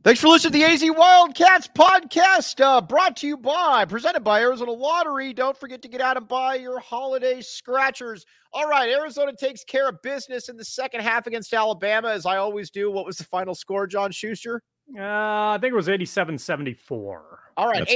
Thanks for listening to the AZ Wildcats podcast, presented by Arizona Lottery. Don't forget to get out and buy your holiday scratchers. All right, Arizona takes care of business in the second half against Alabama, as I always do. What was the final score, John Schuster? I think it was 87-74. All right,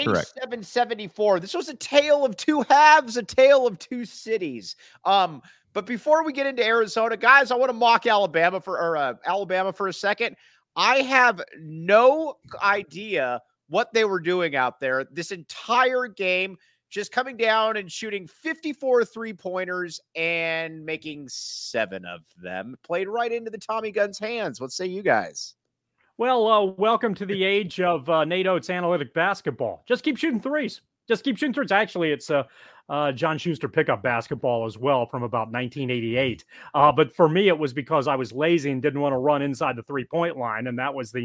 87-74. This was a tale of two halves, a tale of two cities. But before we get into Arizona, guys, I want to mock Alabama for a second. I have no idea what they were doing out there this entire game, just coming down and shooting 54 three-pointers and making 7 of them. Played right into the Tommy Gunn's hands. What say you guys? Well, welcome to the age of Nate Oates analytic basketball. Just keep shooting threes. Actually, it's John Schuster pickup basketball as well from about 1988. But for me, it was because I was lazy and didn't want to run inside the three-point line. And that was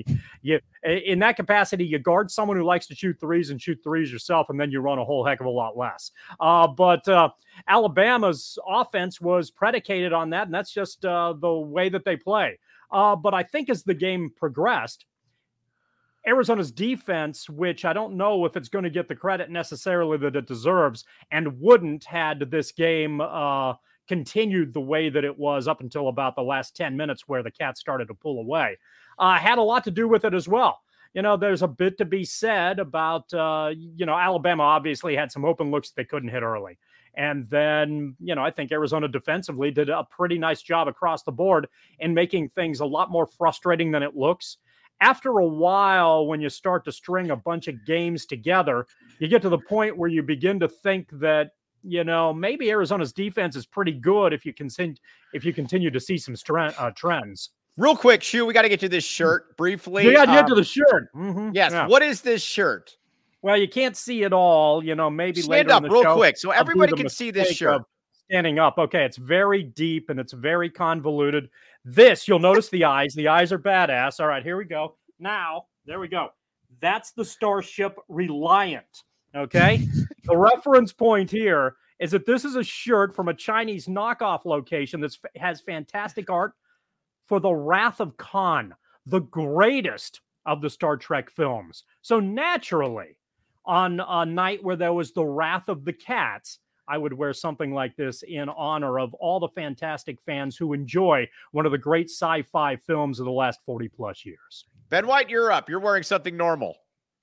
in that capacity, you guard someone who likes to shoot threes and shoot threes yourself, and then you run a whole heck of a lot less. But Alabama's offense was predicated on that, and that's just the way that they play. But I think as the game progressed, Arizona's defense, which I don't know if it's going to get the credit necessarily that it deserves, and wouldn't had this game continued the way that it was up until about the last 10 minutes where the Cats started to pull away, had a lot to do with it as well. You know, there's a bit to be said about, Alabama obviously had some open looks they couldn't hit early. And then, I think Arizona defensively did a pretty nice job across the board in making things a lot more frustrating than it looks. After a while, when you start to string a bunch of games together, you get to the point where you begin to think that, maybe Arizona's defense is pretty good if you continue to see some trends. Real quick, Shu, we got to get to this shirt briefly. We got to get to the shirt. Mm-hmm. Yes. Yeah. What is this shirt? Well, you can't see it all, maybe stand later up in the real show, quick so everybody can see this shirt. Standing up. Okay, it's very deep and it's very convoluted. This, you'll notice the eyes. The eyes are badass. All right, here we go. Now, there we go. That's the Starship Reliant. Okay? The reference point here is that this is a shirt from a Chinese knockoff location that has fantastic art for the Wrath of Khan, the greatest of the Star Trek films. So naturally, on a night where there was the Wrath of the Cats, I would wear something like this in honor of all the fantastic fans who enjoy one of the great sci-fi films of the last 40 plus years. Ben White, you're up. You're wearing something normal.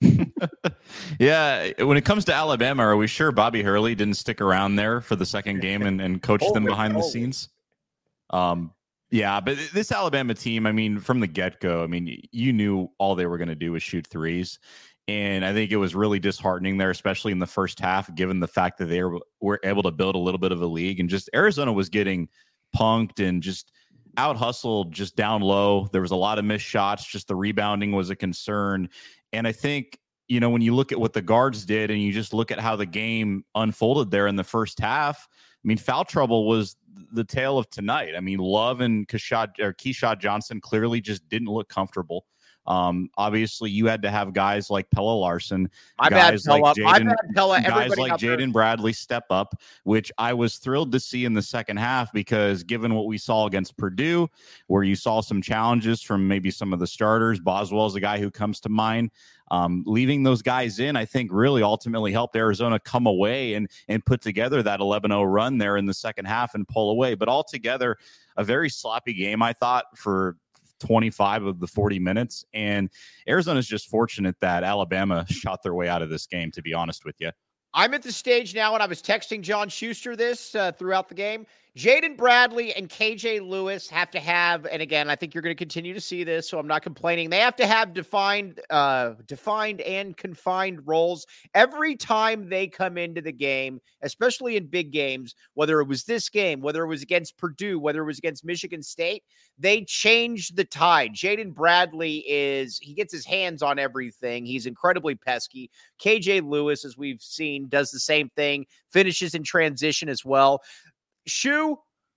Yeah. When it comes to Alabama, are we sure Bobby Hurley didn't stick around there for the second game and coach them behind the scenes? Yeah, but this Alabama team, I mean, from the get-go, I mean, you knew all they were going to do was shoot threes. And I think it was really disheartening there, especially in the first half, given the fact that they were able to build a little bit of a lead. And just Arizona was getting punked and just out-hustled just down low. There was a lot of missed shots. Just the rebounding was a concern. And I think, when you look at what the guards did and you just look at how the game unfolded there in the first half, I mean, foul trouble was the tale of tonight. I mean, Love and Keyshawn Johnson clearly just didn't look comfortable. Obviously, you had to have guys like Pella Larson, guys like Jaden Bradley step up, which I was thrilled to see in the second half because given what we saw against Purdue, where you saw some challenges from maybe some of the starters, Boswell is the guy who comes to mind. Leaving those guys in, I think, really ultimately helped Arizona come away and put together that 11-0 run there in the second half and pull away. But altogether, a very sloppy game, I thought, for 25 of the 40 minutes. And Arizona's just fortunate that Alabama shot their way out of this game, to be honest with you. I'm at the stage now, and I was texting John Schuster this throughout the game. Jaden Bradley and KJ Lewis have to have, and again, I think you're going to continue to see this, so I'm not complaining. They have to have defined and confined roles every time they come into the game, especially in big games, whether it was this game, whether it was against Purdue, whether it was against Michigan State, they change the tide. Jaden Bradley he gets his hands on everything. He's incredibly pesky. KJ Lewis, as we've seen, does the same thing, finishes in transition as well. Shu,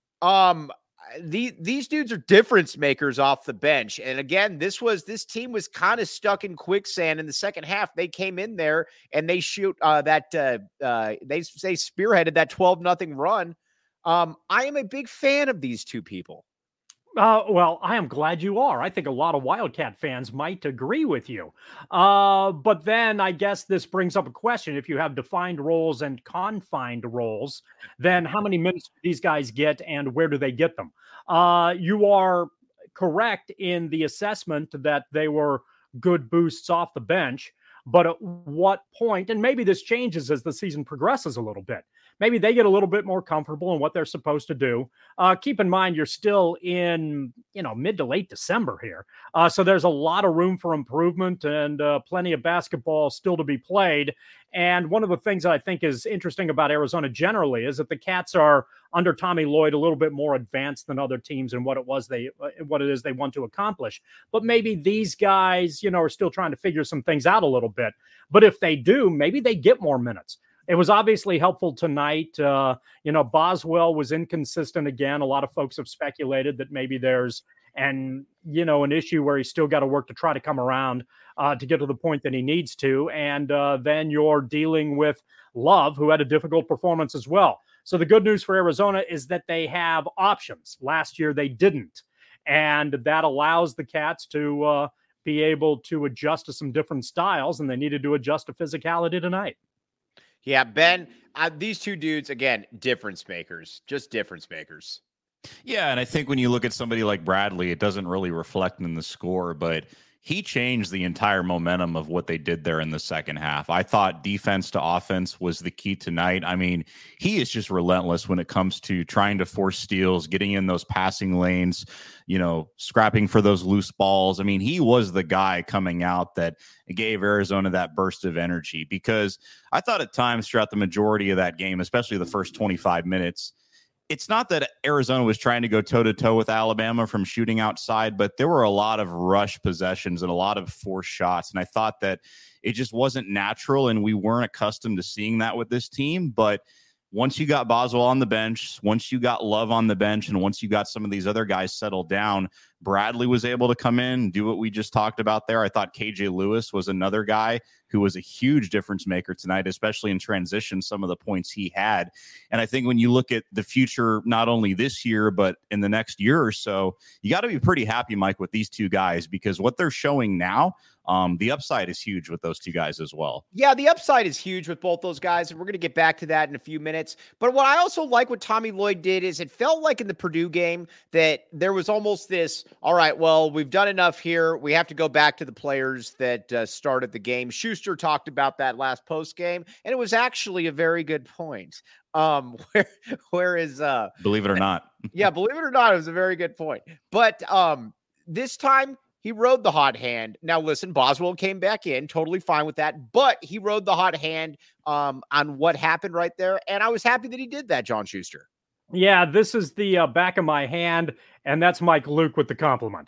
these dudes are difference makers off the bench. And again, this team was kind of stuck in quicksand in the second half. They came in there and they shoot they spearheaded that 12-0 run. I am a big fan of these two people. Well, I am glad you are. I think a lot of Wildcat fans might agree with you. But then I guess this brings up a question. If you have defined roles and confined roles, then how many minutes do these guys get and where do they get them? You are correct in the assessment that they were good boosts off the bench. But at what point, and maybe this changes as the season progresses a little bit, maybe they get a little bit more comfortable in what they're supposed to do. Keep in mind, you're still in, mid to late December here. So there's a lot of room for improvement and plenty of basketball still to be played. And one of the things that I think is interesting about Arizona generally is that the Cats are under Tommy Lloyd a little bit more advanced than other teams in what it is they want to accomplish. But maybe these guys, are still trying to figure some things out a little bit. But if they do, maybe they get more minutes. It was obviously helpful tonight. Boswell was inconsistent again. A lot of folks have speculated that maybe there's an issue where he's still got to work to try to come around to get to the point that he needs to. And then you're dealing with Love, who had a difficult performance as well. So the good news for Arizona is that they have options. Last year they didn't. And that allows the Cats to be able to adjust to some different styles, and they needed to adjust to physicality tonight. Yeah, Ben, these two dudes, again, difference makers, just difference makers. Yeah, and I think when you look at somebody like Bradley, it doesn't really reflect in the score, but he changed the entire momentum of what they did there in the second half. I thought defense to offense was the key tonight. I mean, he is just relentless when it comes to trying to force steals, getting in those passing lanes, scrapping for those loose balls. I mean, he was the guy coming out that gave Arizona that burst of energy, because I thought at times throughout the majority of that game, especially the first 25 minutes, it's not that Arizona was trying to go toe-to-toe with Alabama from shooting outside, but there were a lot of rush possessions and a lot of forced shots. And I thought that it just wasn't natural, and we weren't accustomed to seeing that with this team. But once you got Boswell on the bench, once you got Love on the bench, and once you got some of these other guys settled down, Bradley was able to come in and do what we just talked about there. I thought KJ Lewis was another guy who was a huge difference maker tonight, especially in transition, some of the points he had. And I think when you look at the future, not only this year, but in the next year or so, you got to be pretty happy, Mike, with these two guys, because what they're showing now, the upside is huge with those two guys as well. Yeah, the upside is huge with both those guys, and we're going to get back to that in a few minutes. But what I also like what Tommy Lloyd did is it felt like in the Purdue game that there was almost this, all right, well, we've done enough here. We have to go back to the players that started the game. Schuster talked about that last post game, and it was actually a very good point. Where is believe it or not. Yeah, believe it or not, it was a very good point. But this time, he rode the hot hand. Now, listen, Boswell came back in, totally fine with that, but he rode the hot hand on what happened right there, and I was happy that he did that, John Schuster. Yeah, this is the back of my hand, and that's Mike Luke with the compliment.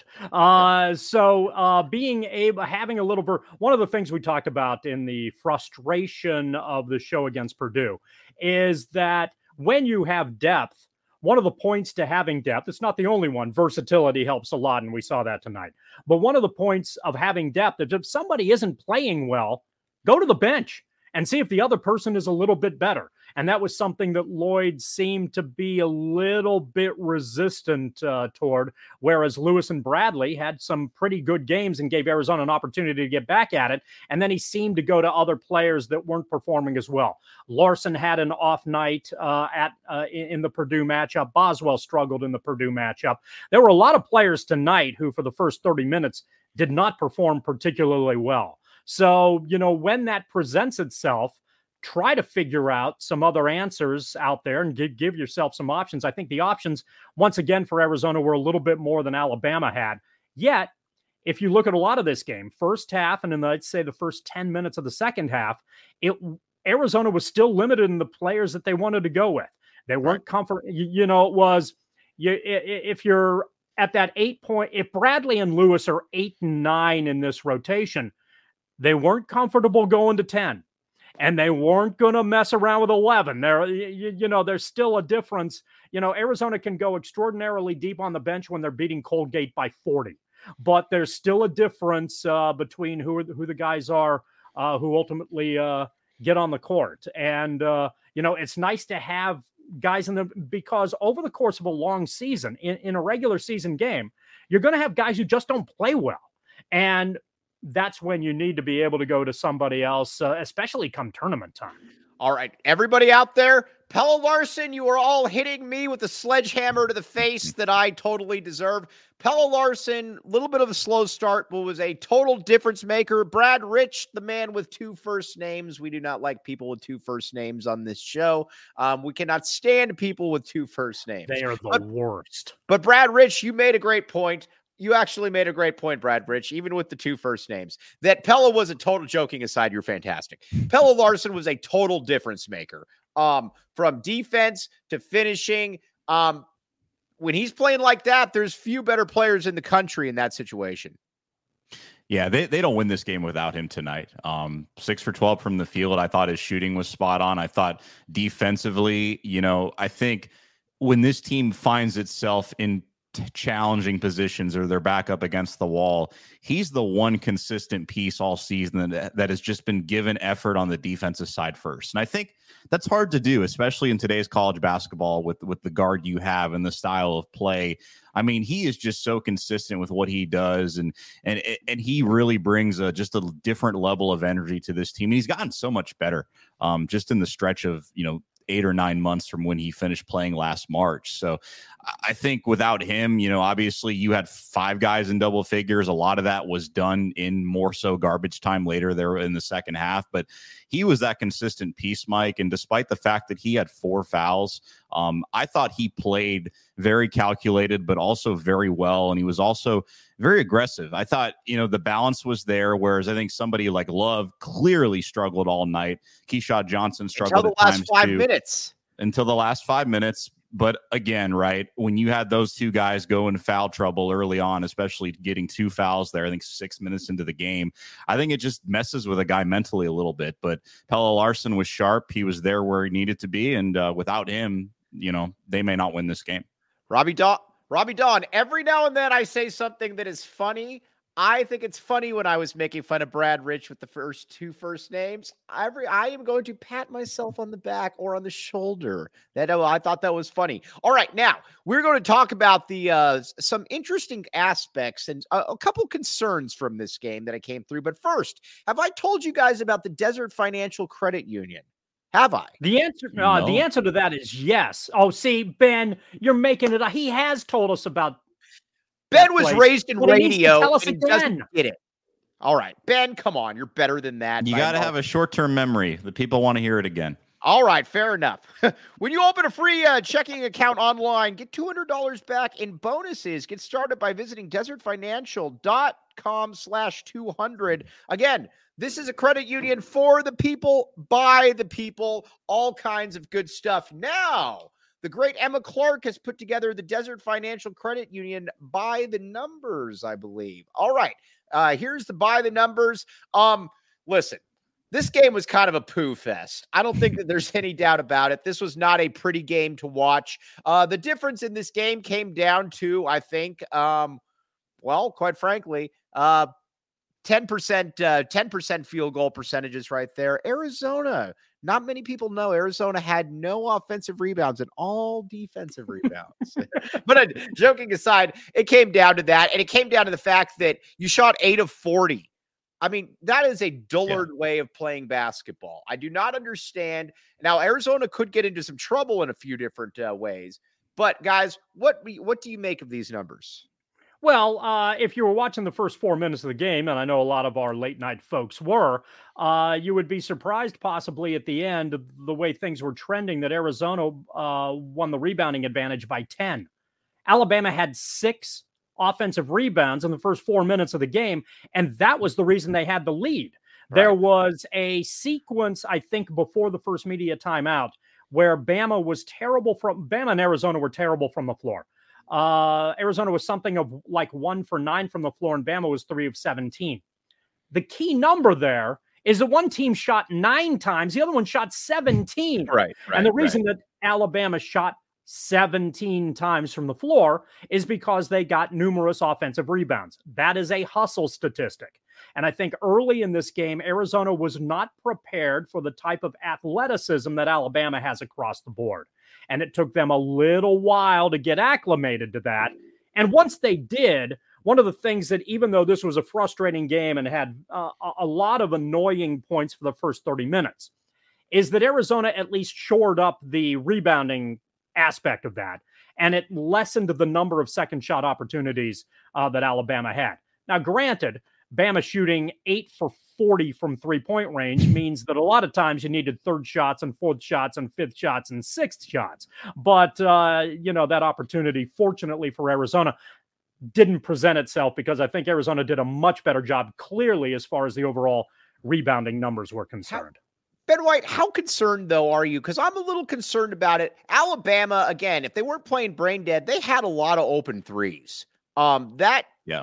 Being able, having a little, one of the things we talked about in the frustration of the show against Purdue is that when you have depth, one of the points to having depth, it's not the only one, versatility helps a lot, and we saw that tonight. But one of the points of having depth is if somebody isn't playing well, go to the bench and see if the other person is a little bit better. And that was something that Lloyd seemed to be a little bit resistant toward, whereas Lewis and Bradley had some pretty good games and gave Arizona an opportunity to get back at it. And then he seemed to go to other players that weren't performing as well. Larson had an off night in the Purdue matchup. Boswell struggled in the Purdue matchup. There were a lot of players tonight who, for the first 30 minutes, did not perform particularly well. So, when that presents itself, try to figure out some other answers out there and give yourself some options. I think the options, once again, for Arizona were a little bit more than Alabama had. Yet, if you look at a lot of this game, first half, and then I'd say the first 10 minutes of the second half, Arizona was still limited in the players that they wanted to go with. They weren't if you're at that 8 point, if Bradley and Lewis are 8 and 9 in this rotation, they weren't comfortable going to 10. And they weren't going to mess around with 11. There's still a difference. Arizona can go extraordinarily deep on the bench when they're beating Colgate by 40. But there's still a difference between who the guys are who ultimately get on the court. And, it's nice to have guys because over the course of a long season, in a regular season game, you're going to have guys who just don't play well. And that's when you need to be able to go to somebody else, especially come tournament time. All right, everybody out there, Pelle Larsson, you are all hitting me with a sledgehammer to the face that I totally deserve. Pelle Larsson, a little bit of a slow start, but was a total difference maker. Brad Rich, the man with 2 first names. We do not like people with 2 first names on this show. We cannot stand people with 2 first names. They are the worst. But Brad Rich, you made a great point. You actually made a great point, Brad Rich, even with the 2 first names. That Pelle was a total, joking aside, you're fantastic. Pelle Larsson was a total difference maker. From defense to finishing. When he's playing like that, there's few better players in the country in that situation. Yeah, they don't win this game without him tonight. 6 for 12 from the field. I thought his shooting was spot on. I thought defensively, I think when this team finds itself in challenging positions or they're back up against the wall, he's the one consistent piece all season that has just been given effort on the defensive side first. And I think that's hard to do, especially in today's college basketball with the guard you have and the style of play. I mean, he is just so consistent with what he does, and he really brings just a different level of energy to this team. And he's gotten so much better just in the stretch of 8 or 9 months from when he finished playing last March. So I think without him, obviously you had 5 guys in double figures. A lot of that was done in more so garbage time later there in the second half, but he was that consistent piece, Mike. And despite the fact that he had 4 fouls, I thought he played very calculated, but also very well. And he was also very aggressive. I thought, the balance was there, whereas I think somebody like Love clearly struggled all night. Keyshawn Johnson struggled until the last 5 minutes. Until the last 5 minutes. But again, right, when you had those 2 guys go in foul trouble early on, especially getting 2 fouls there, I think 6 minutes into the game, I think it just messes with a guy mentally a little bit. But Pelle Larsson was sharp. He was there where he needed to be. And without him, they may not win this game. Robbie Dawn, every now and then I say something that is funny. I think it's funny when I was making fun of Brad Rich with the first 2 first names. I am going to pat myself on the back or on the shoulder. I thought that was funny. All right, now we're going to talk about the some interesting aspects and a couple concerns from this game that I came through. But first, have I told you guys about the Desert Financial Credit Union? Have I? The answer to that is yes. Oh, see, Ben, you're making it. He has told us about. Ben was raised in radio. Tell us and again. Doesn't get it. All right, Ben, come on. You're better than that. You got to have a short-term memory. The people want to hear it again. All right, fair enough. When you open a free checking account online, get $200 back in bonuses. Get started by visiting desertfinancial.com/200. Again, this is a credit union for the people, by the people, all kinds of good stuff. Now, the great Emma Clark has put together the Desert Financial Credit Union by the numbers, I believe. All right, here's the by the numbers. Listen, this game was kind of a poo fest. I don't think that there's any doubt about it. This was not a pretty game to watch. The difference in this game came down to, I think, quite frankly, 10% field goal percentages right there. Arizona, not many people know Arizona had no offensive rebounds and all defensive rebounds. But joking aside, it came down to that. And it came down to the fact that you shot 8 of 40. I mean, that is a dullard way of playing basketball. I do not understand. Now, Arizona could get into some trouble in a few different ways. But guys, what do you make of these numbers? Well, if you were watching the first 4 minutes of the game, and I know a lot of our late night folks were, you would be surprised possibly at the end of the way things were trending that Arizona won the rebounding advantage by 10. Alabama had 6 offensive rebounds in the first 4 minutes of the game, and that was the reason they had the lead. Right. There was a sequence, I think, before the first media timeout where Bama and Arizona were terrible from the floor. Arizona was something of like 1 for 9 from the floor, and Bama was 3 of 17. The key number there is the one team shot 9 times, the other one shot 17. Right. And the reason that Alabama shot 17 times from the floor is because they got numerous offensive rebounds. That is a hustle statistic. And I think early in this game, Arizona was not prepared for the type of athleticism that Alabama has across the board. And it took them a little while to get acclimated to that. And once they did, one of the things that, even though this was a frustrating game and had a lot of annoying points for the first 30 minutes, is that Arizona at least shored up the rebounding aspect of that, and it lessened the number of second shot opportunities that Alabama had. Now, granted, Bama shooting 8 for 40 from 3-point range means that a lot of times you needed third shots and fourth shots and fifth shots and sixth shots. But, that opportunity, fortunately for Arizona, didn't present itself because I think Arizona did a much better job clearly as far as the overall rebounding numbers were concerned. Ben White, how concerned, though, are you? Because I'm a little concerned about it. Alabama, again, if they weren't playing brain dead, they had a lot of open threes. That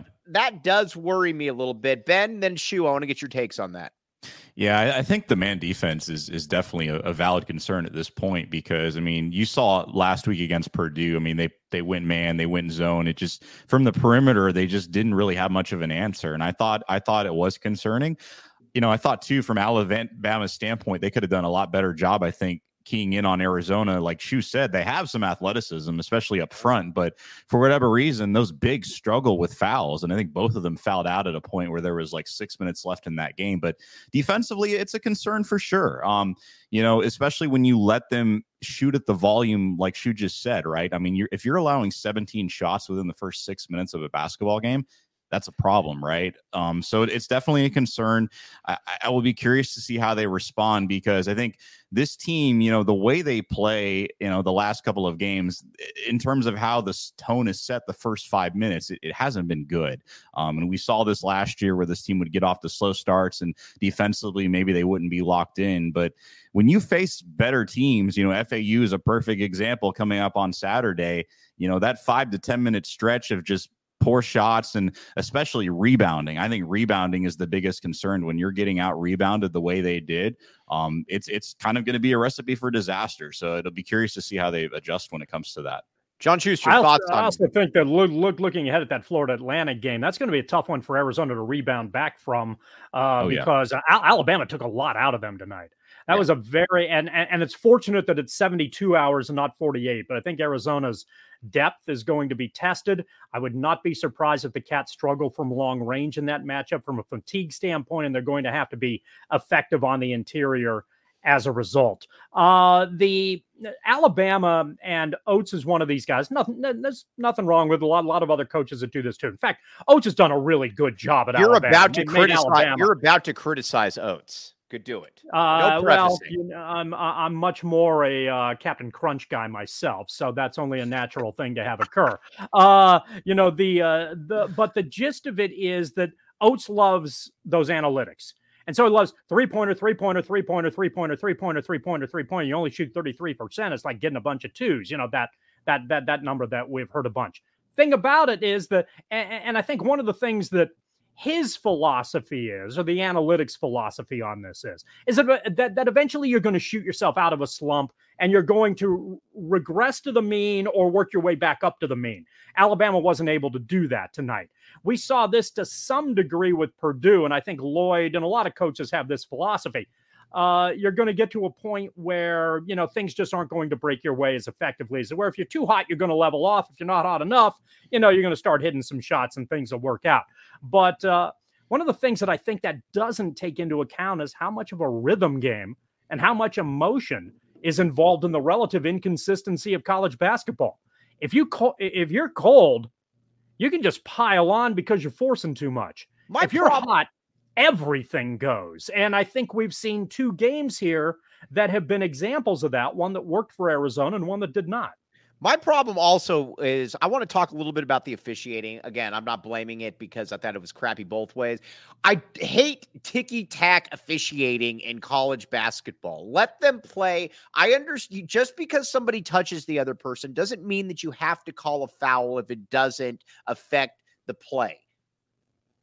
does worry me a little bit. Ben, then Shu, I want to get your takes on that. Yeah, I think the man defense is definitely a valid concern at this point because, I mean, you saw last week against Purdue. I mean, they went man, they went zone. It just, from the perimeter, they just didn't really have much of an answer. And I thought it was concerning. I thought, too, from Alabama's standpoint, they could have done a lot better job, I think, keying in on Arizona. Like Shu said, they have some athleticism, especially up front. But for whatever reason, those bigs struggle with fouls. And I think both of them fouled out at a point where there was like 6 minutes left in that game. But defensively, it's a concern for sure. Especially when you let them shoot at the volume, like Shu just said, right? I mean, if you're allowing 17 shots within the first 6 minutes of a basketball game, that's a problem, right? So it's definitely a concern. I will be curious to see how they respond because I think this team, the way they play, the last couple of games, in terms of how the tone is set the first 5 minutes, it hasn't been good. And we saw this last year where this team would get off to slow starts and defensively, maybe they wouldn't be locked in. But when you face better teams, FAU is a perfect example coming up on Saturday, that 5 to 10 minute stretch of just poor shots and especially rebounding. I think rebounding is the biggest concern when you're getting out rebounded the way they did. It's kind of going to be a recipe for disaster. So it'll be curious to see how they adjust when it comes to that. John Schuster, thoughts on I also think that looking ahead at that Florida-Atlantic game, that's going to be a tough one for Arizona to rebound back from because Alabama took a lot out of them tonight. That was a very and it's fortunate that it's 72 hours and not 48. But I think Arizona's depth is going to be tested. I would not be surprised if the Cats struggle from long range in that matchup from a fatigue standpoint, and they're going to have to be effective on the interior as a result. The Alabama and Oates is one of these guys. There's nothing wrong with a lot of other coaches that do this too. In fact, Oates has done a really good job at Alabama. You're about to criticize Oates. Could do it. I'm much more a Captain Crunch guy myself, so that's only a natural thing to have occur. But the gist of it is that Oates loves those analytics. And so he loves three-pointer. You only shoot 33%. It's like getting a bunch of twos, that number that we've heard a bunch. Thing about it is that, and I think one of the things that his philosophy is, or the analytics philosophy on this is that eventually you're going to shoot yourself out of a slump and you're going to regress to the mean or work your way back up to the mean. Alabama wasn't able to do that tonight. We saw this to some degree with Purdue, and I think Lloyd and a lot of coaches have this philosophy. You're going to get to a point where, things just aren't going to break your way as effectively as where if you're too hot, you're going to level off. If you're not hot enough, you're going to start hitting some shots and things will work out. But one of the things that I think that doesn't take into account is how much of a rhythm game and how much emotion is involved in the relative inconsistency of college basketball. If you're cold, you can just pile on because you're forcing too much. If you're hot, everything goes. And I think we've seen two games here that have been examples of that, one that worked for Arizona and one that did not. My problem also is I want to talk a little bit about the officiating. Again, I'm not blaming it because I thought it was crappy both ways. I hate ticky-tack officiating in college basketball. Let them play. I understand just because somebody touches the other person doesn't mean that you have to call a foul if it doesn't affect the play.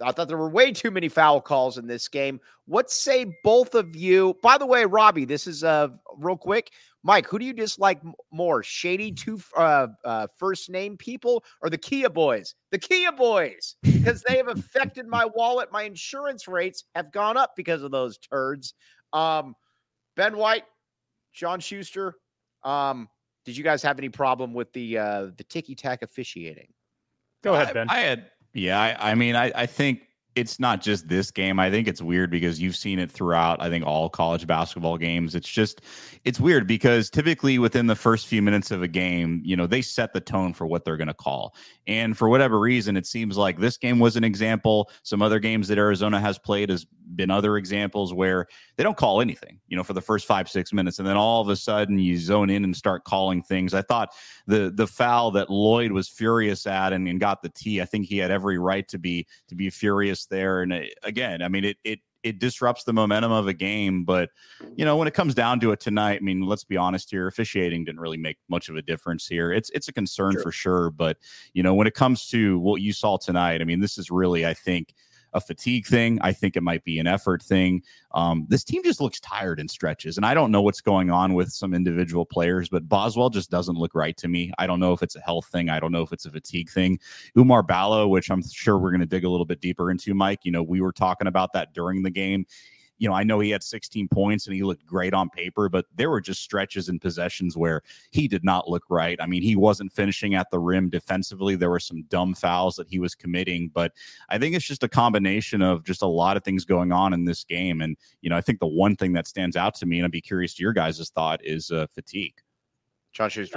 I thought there were way too many foul calls in this game. What say both of you? By the way, Robbie, this is real quick. Mike, who do you dislike more, shady two first name people or the Kia boys? The Kia boys, because they have affected my wallet. My insurance rates have gone up because of those turds. Ben White, John Schuster, did you guys have any problem with the ticky-tack officiating? Go ahead, Ben. I think it's not just this game. I think it's weird because you've seen it throughout, I think, all college basketball games. It's weird because typically within the first few minutes of a game, they set the tone for what they're going to call. And for whatever reason, it seems like this game was an example. Some other games that Arizona has played has been other examples where they don't call anything, for the first 5-6 minutes. And then all of a sudden you zone in and start calling things. I thought the foul that Lloyd was furious at and got the tee, I think he had every right to be furious there. And again, I mean, it disrupts the momentum of a game. But, when it comes down to it tonight, I mean, let's be honest here, officiating didn't really make much of a difference here. It's a concern for sure. But, when it comes to what you saw tonight, I mean, this is really, I think, a fatigue thing. I think it might be an effort thing. This team just looks tired in stretches, and I don't know what's going on with some individual players, but Boswell just doesn't look right to me. I don't know if it's a health thing. I don't know if it's a fatigue thing. Oumar Ballo, which I'm sure we're going to dig a little bit deeper into, Mike, we were talking about that during the game. I know he had 16 points and he looked great on paper, but there were just stretches and possessions where he did not look right. I mean, he wasn't finishing at the rim defensively. There were some dumb fouls that he was committing, but I think it's just a combination of just a lot of things going on in this game. And, I think the one thing that stands out to me, and I'd be curious to your guys' thought, is fatigue. John Schuster.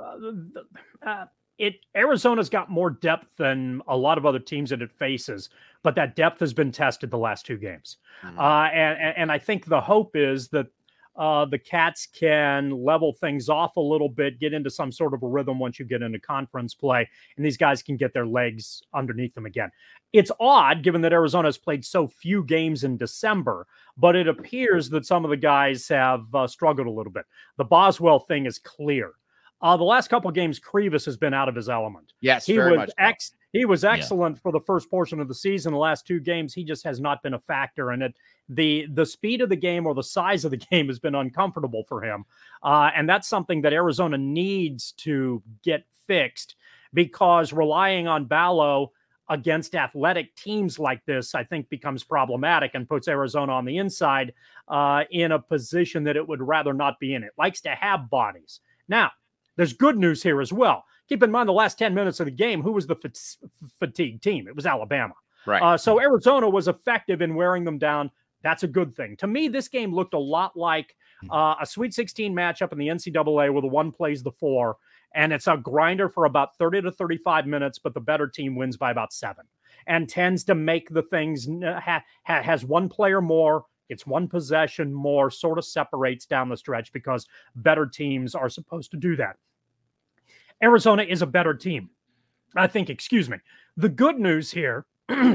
Arizona's got more depth than a lot of other teams that it faces, but that depth has been tested the last 2 games. Mm-hmm. And I think the hope is that the Cats can level things off a little bit, get into some sort of a rhythm once you get into conference play, and these guys can get their legs underneath them again. It's odd, given that Arizona has played so few games in December, but it appears that some of the guys have struggled a little bit. The Boswell thing is clear. The last couple of games, Krivas has been out of his element. Yes, he was excellent for the first portion of the season. The last 2 games, he just has not been a factor. And the speed of the game or the size of the game has been uncomfortable for him. And that's something that Arizona needs to get fixed, because relying on Ballo against athletic teams like this, I think, becomes problematic and puts Arizona on the inside in a position that it would rather not be in. It likes to have bodies. Now, there's good news here as well. Keep in mind the last 10 minutes of the game, who was the fatigue team? It was Alabama. Right. So Arizona was effective in wearing them down. That's a good thing. To me, this game looked a lot like a Sweet 16 matchup in the NCAA where the 1 plays the 4, and it's a grinder for about 30 to 35 minutes, but the better team wins by about 7 and tends to make the things, has 1 player more, it's 1 possession more, sort of separates down the stretch because better teams are supposed to do that. Arizona is a better team, I think, The good news here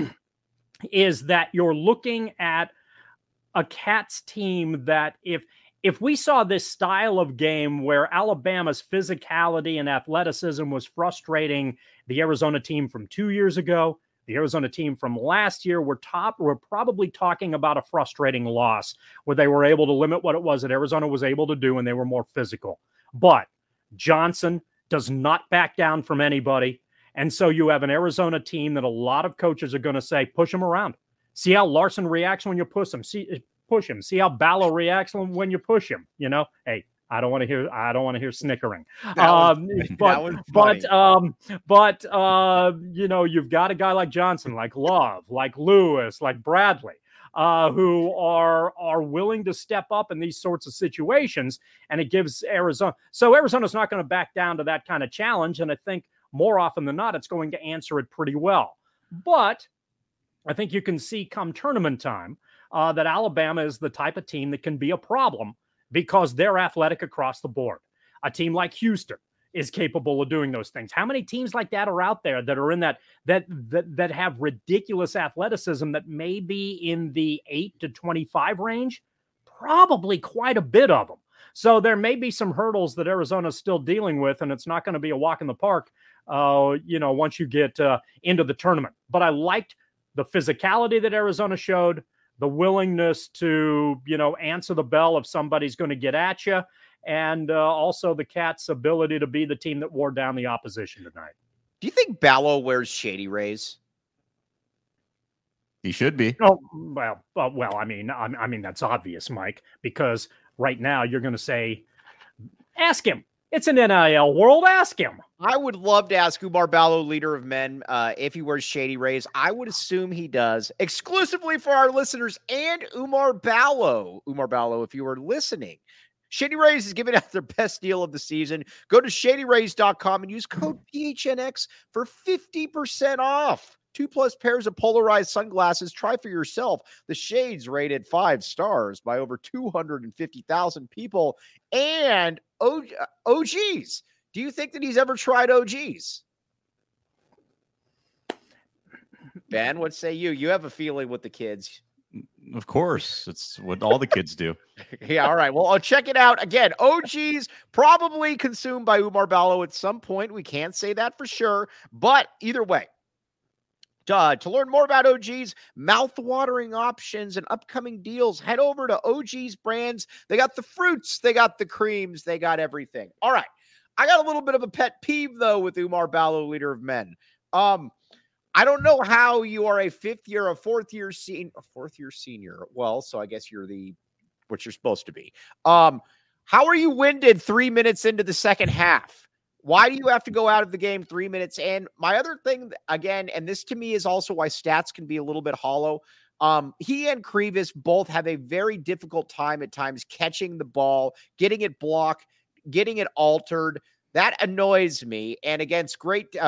is that you're looking at a Cats team that if we saw this style of game where Alabama's physicality and athleticism was frustrating the Arizona team from 2 years ago, the Arizona team from last year, we're probably talking about a frustrating loss where they were able to limit what it was that Arizona was able to do, and they were more physical. But Johnson does not back down from anybody. And so you have an Arizona team that a lot of coaches are going to say, push him around. See how Larson reacts when you push him. Push him. See how Ballo reacts when you push him. Hey, I don't want to hear snickering. But you've got a guy like Johnson, like Love, like Lewis, like Bradley, who are willing to step up in these sorts of situations, and it gives Arizona. So Arizona's not going to back down to that kind of challenge, and I think more often than not, it's going to answer it pretty well. But I think you can see come tournament time that Alabama is the type of team that can be a problem because they're athletic across the board. A team like Houston is capable of doing those things. How many teams like that are out there that are in that have ridiculous athleticism that may be in the 8 to 25 range? Probably quite a bit of them. So there may be some hurdles that Arizona's still dealing with, and it's not going to be a walk in the park, once you get into the tournament. But I liked the physicality that Arizona showed, the willingness to, answer the bell if somebody's going to get at you, and also the Cats' ability to be the team that wore down the opposition tonight. Do you think Ballo wears Shady Rays? He should be. Oh, well. I mean, that's obvious, Mike, because right now you're going to say, ask him. It's an NIL world. Ask him. I would love to ask Umar Ballo, leader of men, if he wears Shady Rays. I would assume he does, exclusively for our listeners and Umar Ballo. Umar Ballo, if you are listening, Shady Rays is giving out their best deal of the season. Go to shadyrays.com and use code PHNX for 50% off. 2+ pairs of polarized sunglasses. Try for yourself. The shades rated 5 stars by over 250,000 people. And OGs. Do you think that he's ever tried OGs? Ben, what say you? You have a feeling with the kids. Of course. It's what all the kids do. Yeah, all right. Well, I'll check it out. Again, OGs probably consumed by Umar Ballo at some point. We can't say that for sure. But either way, to learn more about OG's mouth-watering options and upcoming deals, head over to OG's brands. They got the fruits, they got the creams, they got everything. All right. I got a little bit of a pet peeve, though, with Umar Ballo, leader of men. I don't know how you are a fourth year senior. Well, so I guess you're what you're supposed to be. How are you winded 3 minutes into the second half? Why do you have to go out of the game 3 minutes? And my other thing, again, and this to me is also why stats can be a little bit hollow. He and Krivas both have a very difficult time at times catching the ball, getting it blocked, getting it altered. That annoys me. And against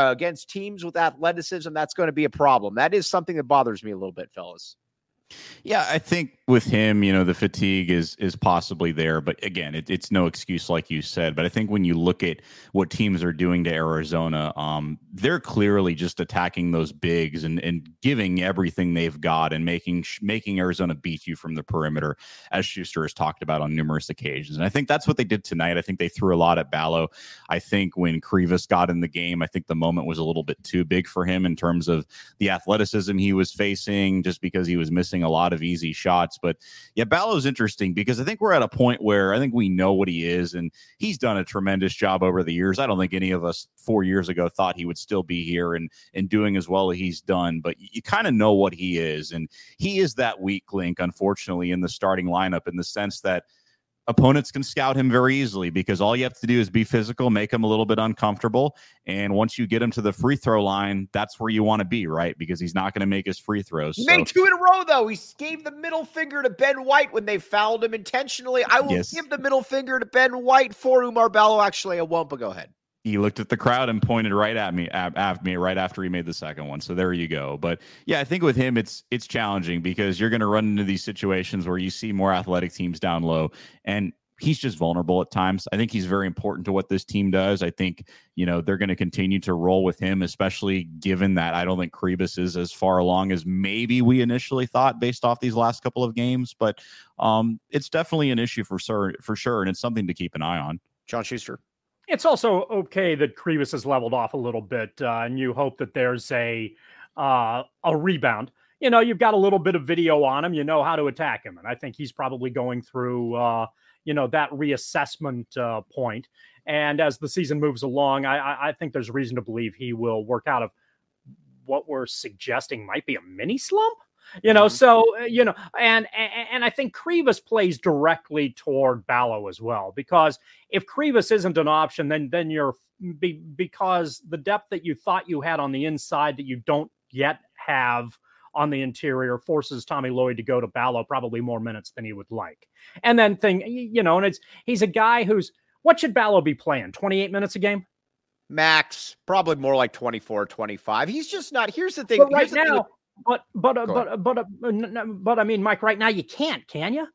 teams with athleticism, that's going to be a problem. That is something that bothers me a little bit, fellas. Yeah, I think with him, the fatigue is possibly there, but again, it's no excuse like you said. But I think when you look at what teams are doing to Arizona, they're clearly just attacking those bigs and giving everything they've got and making Arizona beat you from the perimeter, as Schuster has talked about on numerous occasions. And I think that's what they did tonight. I think they threw a lot at Ballo. I think when Krivas got in the game, I think the moment was a little bit too big for him in terms of the athleticism he was facing, just because he was missing a lot of easy shots. But yeah, Ballo's interesting because I think we're at a point where I think we know what he is, and he's done a tremendous job over the years. I don't think any of us 4 years ago thought he would still be here and doing as well as he's done, but you kind of know what he is. And he is that weak link, unfortunately, in the starting lineup, in the sense that opponents can scout him very easily because all you have to do is be physical, make him a little bit uncomfortable. And once you get him to the free throw line, that's where you want to be, right? Because he's not going to make his free throws. He made 2 in a row, though. He gave the middle finger to Ben White when they fouled him intentionally. I will give the middle finger to Ben White for Umar Ballo. Actually, I won't, but go ahead. He looked at the crowd and pointed right at me right after he made the second one. So there you go. But yeah, I think with him, it's challenging because you're going to run into these situations where you see more athletic teams down low, and he's just vulnerable at times. I think he's very important to what this team does. I think, they're going to continue to roll with him, especially given that I don't think Krivas is as far along as maybe we initially thought based off these last couple of games. But it's definitely an issue for sure. And it's something to keep an eye on. John Schuster. It's also okay that Krivas has leveled off a little bit, and you hope that there's a rebound. You've got a little bit of video on him. You know how to attack him. And I think he's probably going through, that reassessment point. And as the season moves along, I think there's reason to believe he will work out of what we're suggesting might be a mini slump. So, and I think Krivas plays directly toward Ballo as well, because if Krivas isn't an option, then you're because the depth that you thought you had on the inside that you don't yet have on the interior forces Tommy Lloyd to go to Ballo probably more minutes than he would like. And then and he's a guy what should Ballo be playing? 28 minutes a game? Max, probably more like 24, 25. He's just not. Here's the thing. But right now, But I mean, Mike, right now you can't, can you?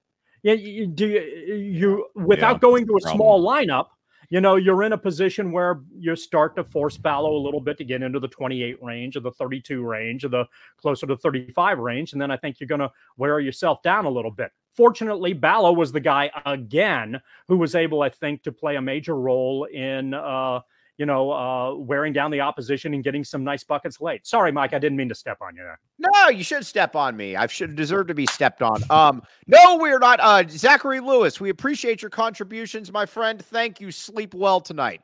You without going to a small lineup, you're in a position where you start to force Ballo a little bit to get into the 28 range or the 32 range or the closer to 35 range. And then I think you're going to wear yourself down a little bit. Fortunately, Ballo was the guy again who was able, I think, to play a major role in wearing down the opposition and getting some nice buckets late. Sorry, Mike, I didn't mean to step on you there. No, you should step on me. I should deserve to be stepped on. No, we're not. Zachary Lewis, we appreciate your contributions, my friend. Thank you. Sleep well tonight.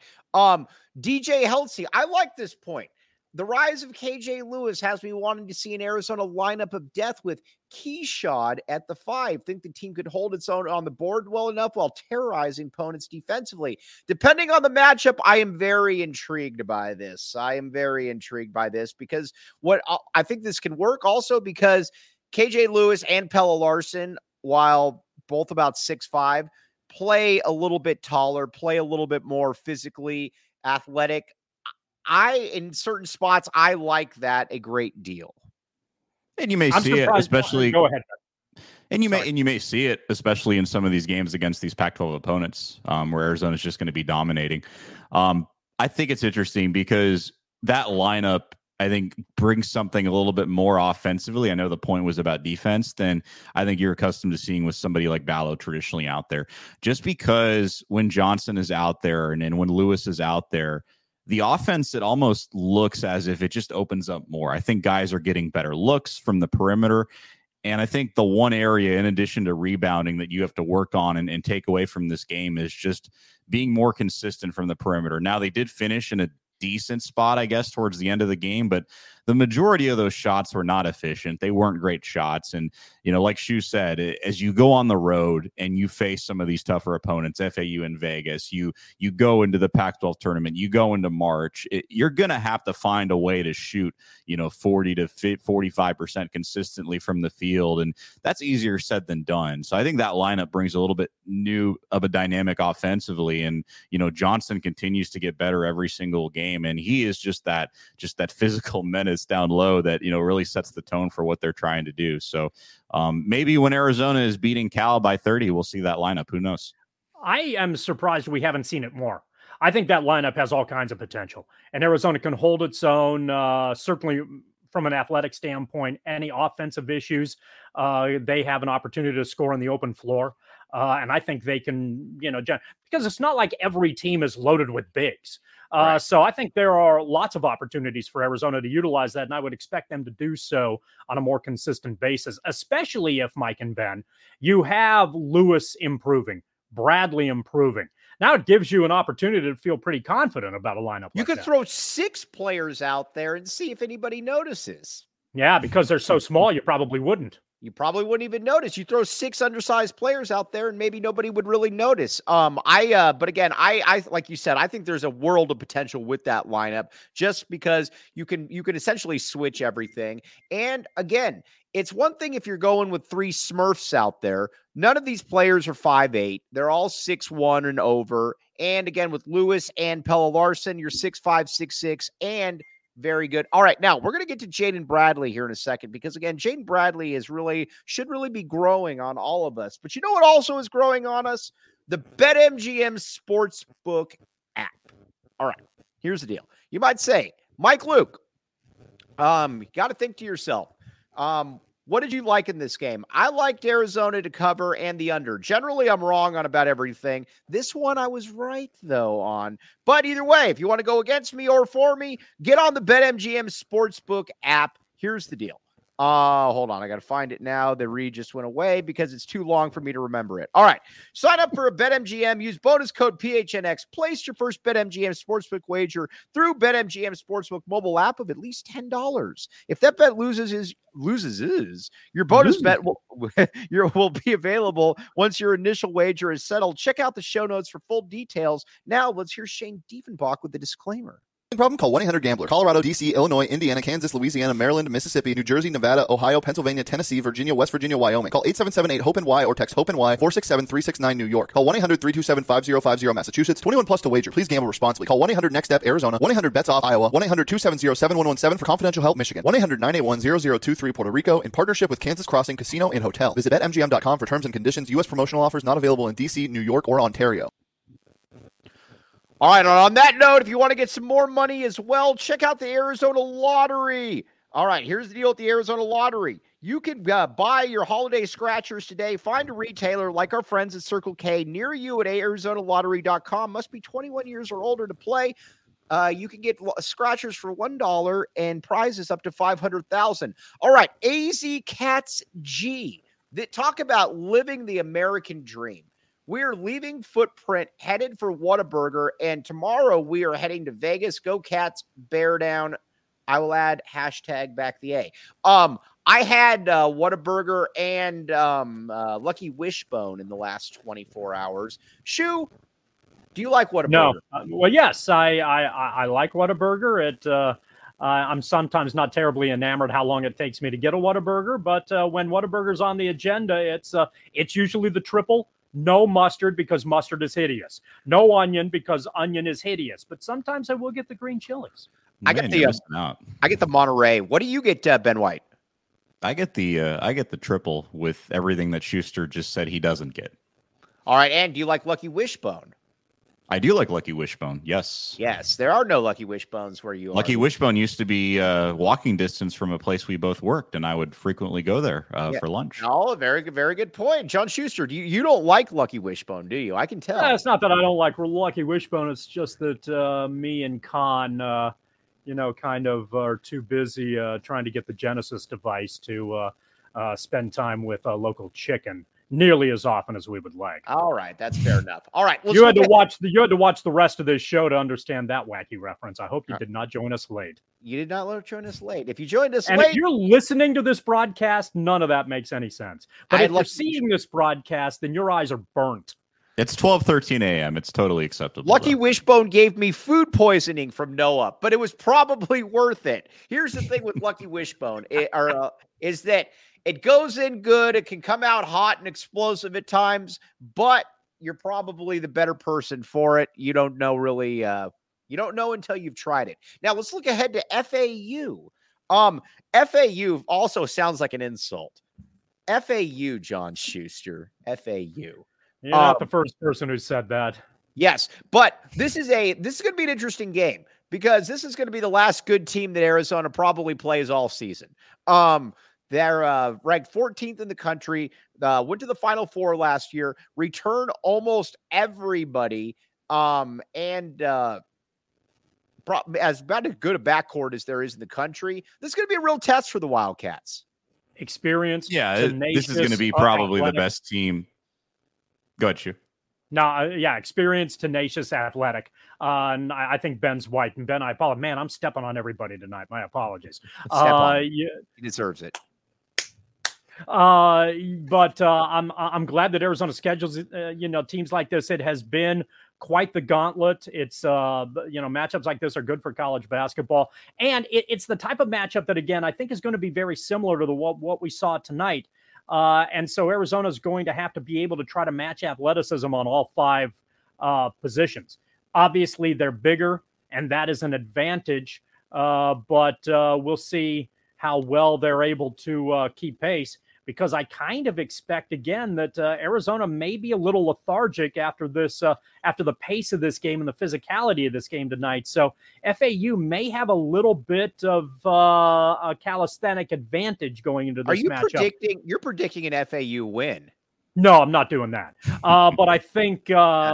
DJ Heltzy, I like this point. The rise of KJ Lewis has me wanting to see an Arizona lineup of death with Keshad at the 5. Think the team could hold its own on the board well enough while terrorizing opponents defensively. Depending on the matchup, I am very intrigued by this. Because I think this can work also because KJ Lewis and Pelle Larsson, while both about 6'5", play a little bit taller, play a little bit more physically athletic. In certain spots, I like that a great deal. And you may see it, especially. Go ahead. And you may see it, especially in some of these games against these Pac-12 opponents, where Arizona is just going to be dominating. I think it's interesting because that lineup, I think, brings something a little bit more offensively. I know the point was about defense than I think you're accustomed to seeing with somebody like Ballo traditionally out there. Just because when Johnson is out there and when Lewis is out there, the offense, it almost looks as if it just opens up more. I think guys are getting better looks from the perimeter. And I think the one area, in addition to rebounding, that you have to work on and take away from this game is just being more consistent from the perimeter. Now, they did finish in a decent spot, I guess, towards the end of the game, but the majority of those shots were not efficient. They weren't great shots. And, like Shu said, as you go on the road and you face some of these tougher opponents, FAU and Vegas, you go into the Pac-12 tournament, you go into March, you're going to have to find a way to shoot, 40 to 45% consistently from the field. And that's easier said than done. So I think that lineup brings a little bit new of a dynamic offensively. And, Johnson continues to get better every single game. And he is just that physical menace down low that, really sets the tone for what they're trying to do. So maybe when Arizona is beating Cal by 30, we'll see that lineup. Who knows? I am surprised we haven't seen it more. I think that lineup has all kinds of potential, and Arizona can hold its own, certainly from an athletic standpoint. Any offensive issues, they have an opportunity to score on the open floor. And I think they can, because it's not like every team is loaded with bigs. Right. So I think there are lots of opportunities for Arizona to utilize that, and I would expect them to do so on a more consistent basis, especially if, Mike and Ben, you have Lewis improving, Bradley improving. Now it gives you an opportunity to feel pretty confident about a lineup. You could throw 6 players out there and see if anybody notices. Yeah, because they're so small, you probably wouldn't. You probably wouldn't even notice. You throw 6 undersized players out there and maybe nobody would really notice. But again, I like you said, I think there's a world of potential with that lineup just because you can essentially switch everything. And again, it's one thing if you're going with 3 Smurfs out there. None of these players are 5'8". They're all 6'1" and over. And again, with Lewis and Pelle Larsson, you're 6'5", 6'6", and very good. All right, now we're going to get to Jaden Bradley here in a second because, again, Jaden Bradley should really be growing on all of us. But you know what also is growing on us? The BetMGM Sportsbook app. All right, here's the deal. You might say, Mike Luke, you got to think to yourself, what did you like in this game? I liked Arizona to cover and the under. Generally, I'm wrong on about everything. This one I was right, though, on. But either way, if you want to go against me or for me, get on the BetMGM Sportsbook app. Here's the deal. Hold on. I got to find it now. The read just went away because it's too long for me to remember it. All right. Sign up for a BetMGM. Use bonus code PHNX. Place your first BetMGM Sportsbook wager through BetMGM Sportsbook mobile app of at least $10. If that bet loses, your bonus bet will be available once your initial wager is settled. Check out the show notes for full details. Now let's hear Shane Diefenbach with the disclaimer. Problem? Call 1-800-GAMBLER. Colorado, D.C., Illinois, Indiana, Kansas, Louisiana, Maryland, Mississippi, New Jersey, Nevada, Ohio, Pennsylvania, Tennessee, Virginia, West Virginia, Wyoming. Call 877-8-HOPE-NY or text HOPE-NY 467-369 New York. Call 1-800-327-5050 Massachusetts. 21 plus to wager. Please gamble responsibly. Call 1-800-NEXT-STEP Arizona. 1-800-BETS-OFF Iowa. 1-800-270-7117 for confidential help Michigan. 1-800-981-0023 Puerto Rico in partnership with Kansas Crossing Casino and Hotel. Visit BetMGM.com for terms and conditions. U.S. promotional offers not available in D.C., New York, or Ontario. All right, on that note, if you want to get some more money as well, check out the Arizona Lottery. All right, here's the deal with the Arizona Lottery. You can buy your holiday scratchers today. Find a retailer like our friends at Circle K near you at ArizonaLottery.com. Must be 21 years or older to play. you can get scratchers for $1 and prizes up to $500,000. All right, AZ Cats G. Talk about living the American dream. We're leaving Footprint, headed for Whataburger, and tomorrow we are heading to Vegas. Go Cats, bear down. I will add hashtag back the A. I had Whataburger and Lucky Wishbone in the last 24 hours. Shu, do you like Whataburger? No. Well, yes, I like Whataburger. I'm sometimes not terribly enamored how long it takes me to get a Whataburger, but when Whataburger's on the agenda, it's usually the triple. No mustard because mustard is hideous. No onion because onion is hideous. But sometimes I will get the green chilies. I get the Monterey. What do you get, Ben White? I get the triple with everything that Schuster just said he doesn't get. All right, and do you like Lucky Wishbone? I do like Lucky Wishbone. Yes. Yes, there are no Lucky Wishbones where you are. Lucky Wishbone used to be walking distance from a place we both worked, and I would frequently go there for lunch. Oh, very good point. John Schuster, you don't like Lucky Wishbone, do you? I can tell. It's not that I don't like Lucky Wishbone. It's just that me and Con, kind of are too busy trying to get the Genesis device to spend time with a local chicken nearly as often as we would like. All right, that's fair enough. All right, you had to watch the rest of this show to understand that wacky reference. I hope you did not join us late. You did not join us late. If you joined us late, if you're listening to this broadcast, none of that makes any sense. But if you're seeing this broadcast, then your eyes are burnt. It's 12:13 a.m. It's totally acceptable. Lucky Wishbone gave me food poisoning from Noah, but it was probably worth it. Here's the thing with Lucky Wishbone is that it goes in good. It can come out hot and explosive at times, but you're probably the better person for it. You don't know really. You don't know until you've tried it. Now let's look ahead to FAU. FAU also sounds like an insult. FAU, John Schuster. FAU. You're not the first person who said that. Yes, but this is going to be an interesting game because this is going to be the last good team that Arizona probably plays all season. They're ranked 14th in the country, went to the Final Four last year, returned almost everybody, and as about as good a backcourt as there is in the country. This is going to be a real test for the Wildcats. Experience. Yeah, this is going to be probably the best team. Go ahead, Shu. No, experienced, tenacious, athletic. And I think Ben's white. And Ben, I apologize. Man, I'm stepping on everybody tonight. My apologies. He deserves it. But I'm glad that Arizona schedules teams like this. It has been quite the gauntlet. It's matchups like this are good for college basketball, and it's the type of matchup that again I think is going to be very similar to what we saw tonight. And so Arizona is going to have to be able to try to match athleticism on all five positions. Obviously, they're bigger, and that is an advantage. But we'll see how well they're able to keep pace, because I kind of expect again that Arizona may be a little lethargic after this, after the pace of this game and the physicality of this game tonight. So FAU may have a little bit of a calisthenic advantage going into this matchup. You're predicting an FAU win? No, I'm not doing that. But I think, I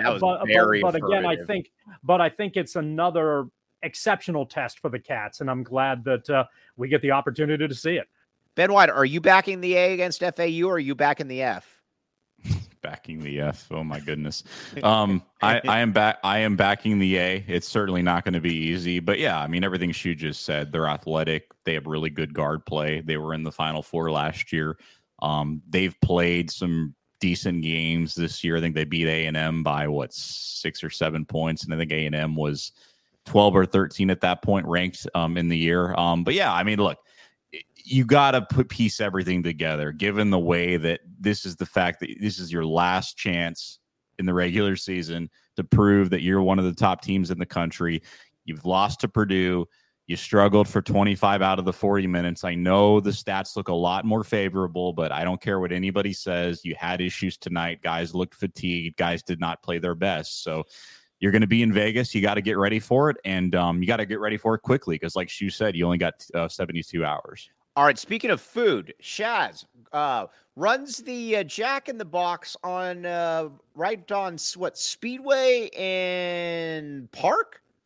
think it's another exceptional test for the Cats, and I'm glad that we get the opportunity to see it. Ben White, are you backing the A against FAU, or are you backing the F? Backing the F. Oh my goodness. I am backing the A. It's certainly not going to be easy, but yeah, I mean, everything Shu just said. They're athletic. They have really good guard play. They were in the Final Four last year. They've played some decent games this year. I think they beat A&M by 6 or 7 points, and I think A&M was 12 or 13 at that point ranked in the year. But yeah, I mean, look, you got to piece everything together, given the way that this is the fact that this is your last chance in the regular season to prove that you're one of the top teams in the country. You've lost to Purdue. You struggled for 25 out of the 40 minutes. I know the stats look a lot more favorable, but I don't care what anybody says. You had issues tonight. Guys looked fatigued. Guys did not play their best. So you're going to be in Vegas. You got to get ready for it, and you got to get ready for it quickly because, like Shu said, you only got 72 hours. All right, speaking of food, Shaz runs the Jack in the Box on right on Speedway and Park?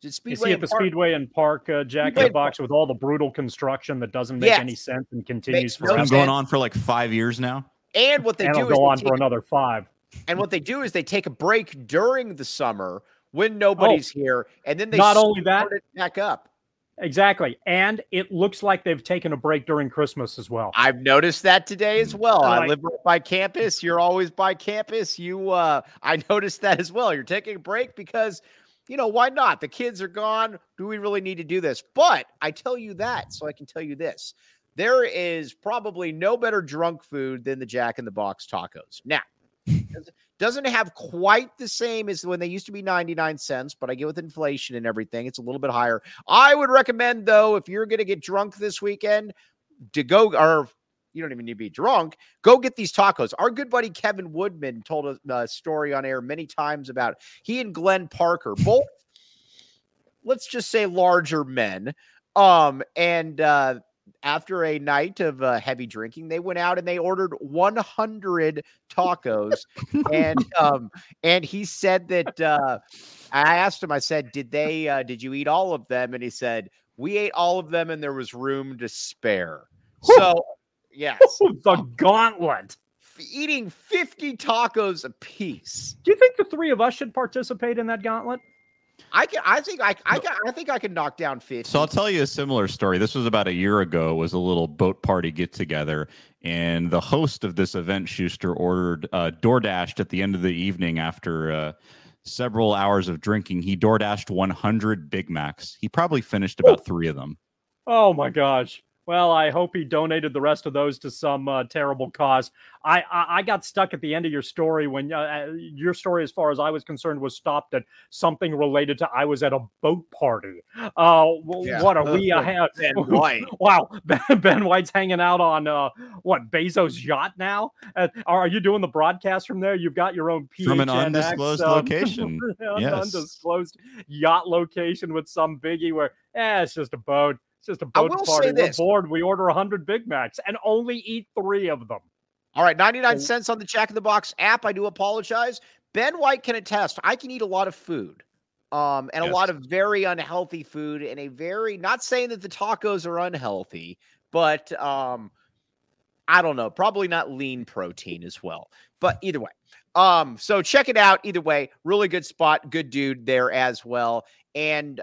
Is it You Speedway see at and the Park? Speedway and Park Jack in Speedway the Box with all the brutal construction that doesn't make any sense and continues Makes no It's forever. been going sense. on for like 5 years now. And what they And do it'll is go they on take for another 5. And what they do is they take a break during the summer when nobody's here, and then they not only that, start it back up. Exactly. And it looks like they've taken a break during Christmas as well. I've noticed that today as well. I Like- live right by campus. You're always by campus. I noticed that as well. You're taking a break because, why not? The kids are gone. Do we really need to do this? But I tell you that, so I can tell you this. There is probably no better drunk food than the Jack in the Box tacos. Now, doesn't have quite the same as when they used to be 99 cents, but I get with inflation and everything, it's a little bit higher. I would recommend, though, if you're going to get drunk this weekend, to go, or you don't even need to be drunk, go get these tacos. Our good buddy Kevin Woodman told a story on air many times about he and Glenn Parker, both, let's just say, larger men, after a night of heavy drinking, they went out and they ordered 100 tacos. and he said that I asked him, I said, did you eat all of them? And he said, we ate all of them and there was room to spare. So, yes. The gauntlet. Eating 50 tacos a piece. Do you think the 3 of us should participate in that gauntlet? I think I can knock down 50. So I'll tell you a similar story. This was about a year ago. It was a little boat party get together, and the host of this event, Schuster, ordered DoorDashed at the end of the evening after several hours of drinking. He DoorDashed 100 Big Macs. He probably finished about 3 of them. Oh my gosh. Well, I hope he donated the rest of those to some terrible cause. I got stuck at the end of your story when your story, as far as I was concerned, was stopped at something related to I was at a boat party. What are we? Ben White. Wow, Ben White's hanging out on Bezos' yacht now. Are you doing the broadcast from there? You've got your own PHNX, from an undisclosed location. Yes. Undisclosed yacht location with some biggie where it's just a boat. It's just a boat party. We're bored. We order 100 Big Macs and only eat 3 of them. All right, 99 cents on the Jack in the Box app. I do apologize. Ben White can attest. I can eat a lot of food, and a lot of very unhealthy food, and not saying that the tacos are unhealthy, but I don't know, probably not lean protein as well. But either way, so check it out. Either way, really good spot, good dude there as well, and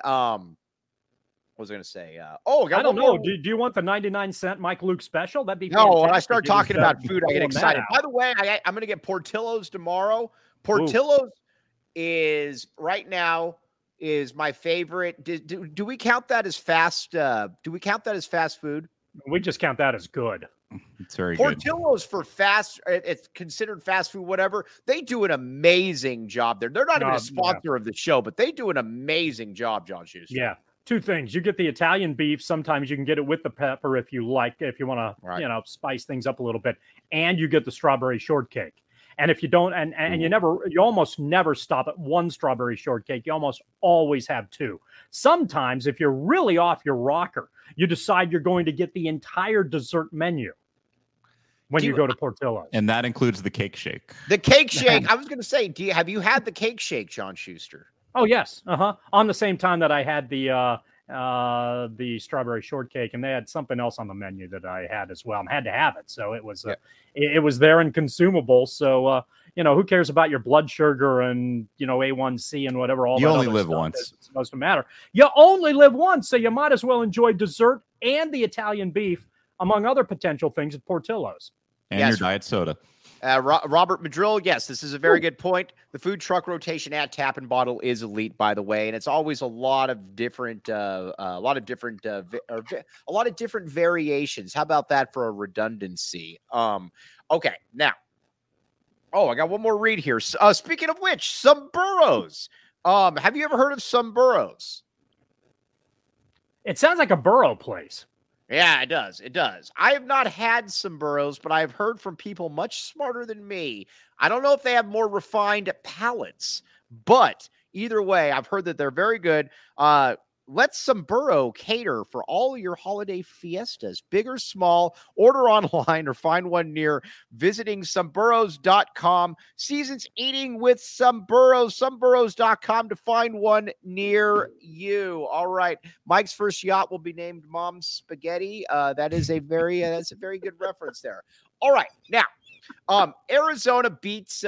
what was I going to say? I don't know. Do you want the 99-cent Mike Luke special? That'd be fantastic. When I start talking about food, I get excited. By the way, I'm going to get Portillo's tomorrow. Portillo's is right now is my favorite. Do we count that as fast? Do we count that as fast food? We just count that as good. It's very good. Portillo's for fast. It's considered fast food, whatever. They do an amazing job there. They're not even a sponsor of the show, but they do an amazing job, John Schuster. Yeah. 2 things. You get the Italian beef. Sometimes you can get it with the pepper if you like, if you want to, spice things up a little bit. And you get the strawberry shortcake. And if you don't, and you almost never stop at 1 strawberry shortcake. You almost always have 2. Sometimes, if you're really off your rocker, you decide you're going to get the entire dessert menu when you go to Portillo's. And that includes the cake shake. The cake shake. I was going to say, have you had the cake shake, John Schuster? Oh, yes. On the same time that I had the strawberry shortcake, and they had something else on the menu that I had as well. I had to have it. So it was it was there and consumable. So, who cares about your blood sugar and, A1C and whatever. You only live once. It's supposed to matter. You only live once. So you might as well enjoy dessert and the Italian beef, among other potential things at Portillo's. And your diet soda. Robert Madrill, yes, this is a very good point. The food truck rotation at Tap and Bottle is elite, by the way, and it's always a lot of different variations. How about that for a redundancy? Okay, now, I got one more read here. Speaking of which, some burros. Have you ever heard of some burros? It sounds like a burro place. Yeah, it does. It does. I have not had some burros, but I've heard from people much smarter than me. I don't know if they have more refined palates, but either way, I've heard that they're very good. let Samburo cater for all your holiday fiestas, big or small. Order online or find one near visiting Samburos.com. Seasons eating with Samburos, Samburos.com to find one near you. All right. Mike's first yacht will be named Mom's Spaghetti. That is a very good reference there. All right. Now, Arizona beats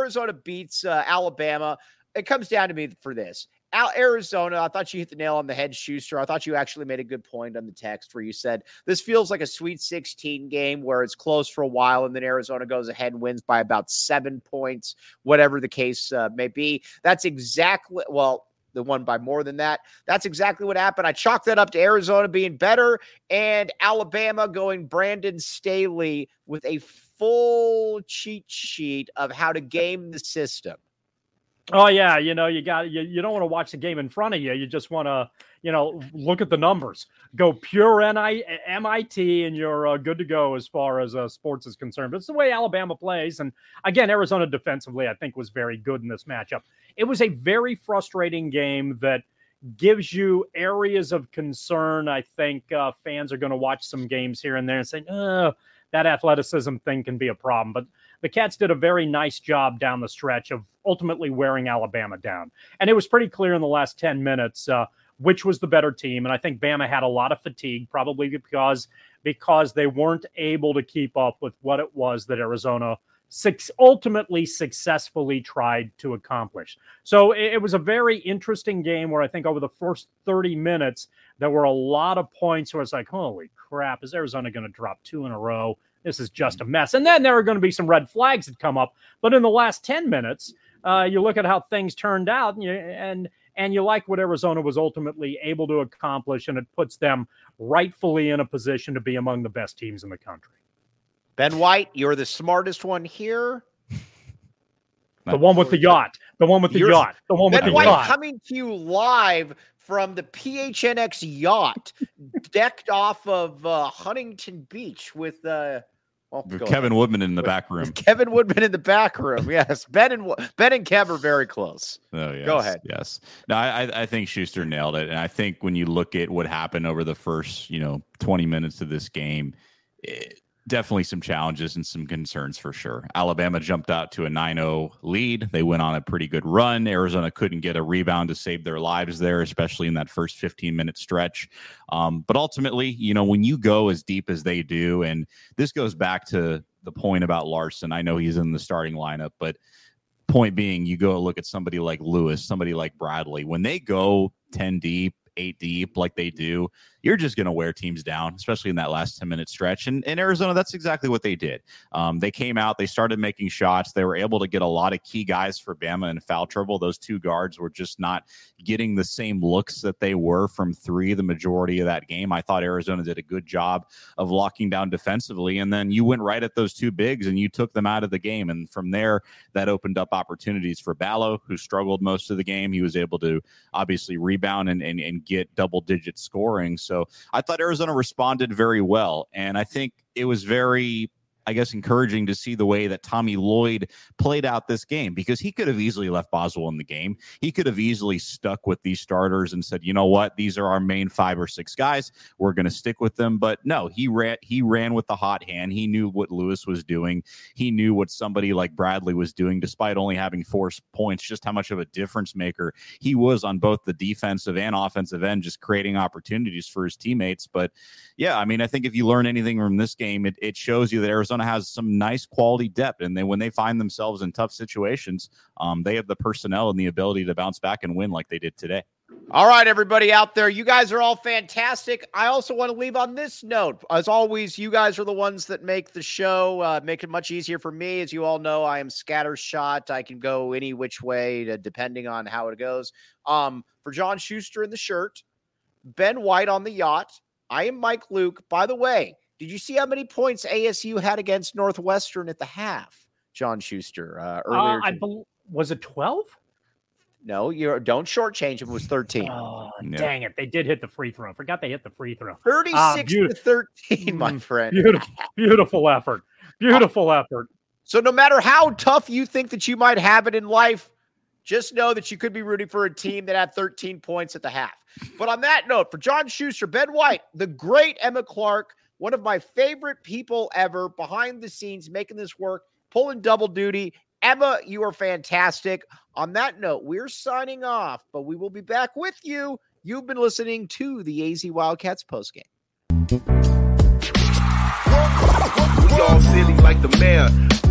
Alabama. It comes down to me for this. Arizona, I thought you hit the nail on the head, Schuster. I thought you actually made a good point on the text where you said this feels like a Sweet 16 game where it's close for a while and then Arizona goes ahead and wins by about 7 points, whatever the case may be. That's exactly, well, the one by more than that. That's exactly what happened. I chalked that up to Arizona being better and Alabama going Brandon Staley with a full cheat sheet of how to game the system. Oh yeah, you don't want to watch the game in front of you. You just want to, look at the numbers. Go pure MIT, and you're good to go as far as sports is concerned. But it's the way Alabama plays, and again, Arizona defensively, I think, was very good in this matchup. It was a very frustrating game that gives you areas of concern. I think fans are going to watch some games here and there and say, that athleticism thing can be a problem. But the Cats did a very nice job down the stretch of ultimately wearing Alabama down. And it was pretty clear in the last 10 minutes which was the better team. And I think Bama had a lot of fatigue, probably because they weren't able to keep up with what it was that Arizona ultimately successfully tried to accomplish. So it was a very interesting game where I think over the first 30 minutes, there were a lot of points where it's like, holy crap, is Arizona going to drop 2 in a row? This is just a mess. And then there are going to be some red flags that come up. But in the last 10 minutes, you look at how things turned out and you like what Arizona was ultimately able to accomplish, and it puts them rightfully in a position to be among the best teams in the country. Ben White, you're the smartest one here. The one with the yacht. The one with the yacht. The one with the White yacht. Coming to you live from the PHNX yacht, decked off of Huntington Beach with Kevin Woodman in the back room. Kevin Woodman in the back room. Yes, Ben and Kev are very close. Oh, yes, go ahead. Yes. No, I think Schuster nailed it, and I think when you look at what happened over the first 20 minutes of this game, definitely some challenges and some concerns for sure. Alabama jumped out to a 9-0 lead. They went on a pretty good run. Arizona couldn't get a rebound to save their lives there, especially in that first 15-minute stretch. But ultimately, when you go as deep as they do, and this goes back to the point about Larson. I know he's in the starting lineup, but point being, you go look at somebody like Lewis, somebody like Bradley. When they go 10 deep, 8 deep like they do, you're just going to wear teams down, especially in that last 10-minute stretch. And in Arizona, that's exactly what they did. They came out, they started making shots. They were able to get a lot of key guys for Bama in foul trouble. Those two guards were just not getting the same looks that they were from three the majority of that game. I thought Arizona did a good job of locking down defensively. And then you went right at those two bigs and you took them out of the game. And from there, that opened up opportunities for Ballo, who struggled most of the game. He was able to obviously rebound and get double-digit scoring. So I thought Arizona responded very well. And I think it was very, encouraging to see the way that Tommy Lloyd played out this game, because he could have easily left Boswell in the game. He could have easily stuck with these starters and said, you know what, these are our main 5 or 6 guys. We're going to stick with them. But no, he ran with the hot hand. He knew what Lewis was doing. He knew what somebody like Bradley was doing, despite only having 4 points, just how much of a difference maker he was on both the defensive and offensive end, just creating opportunities for his teammates. But yeah, I think if you learn anything from this game, it shows you that Arizona has some nice quality depth, and when they find themselves in tough situations, they have the personnel and the ability to bounce back and win like they did today. All right, everybody out there, you guys are all fantastic. I also want to leave on this note. As always, you guys are the ones that make the show, make it much easier for me. As you all know, I am scattershot. I can go any which way depending on how it goes. For John Schuster in the shirt, Ben White on the yacht, I am Mike Luke. By the way, did you see how many points ASU had against Northwestern at the half, John Schuster, earlier? Was it 12? No, don't shortchange him. It was 13. Oh, dang it. They did hit the free throw. I forgot they hit the free throw. 36-13, my friend. Beautiful effort. Beautiful effort. So no matter how tough you think that you might have it in life, just know that you could be rooting for a team that had 13 points at the half. But on that note, for John Schuster, Ben White, the great Emma Clark, one of my favorite people ever behind the scenes, making this work, pulling double duty. Emma, you are fantastic. On that note, we're signing off, but we will be back with you. You've been listening to the AZ Wildcats postgame. We all silly like the mayor.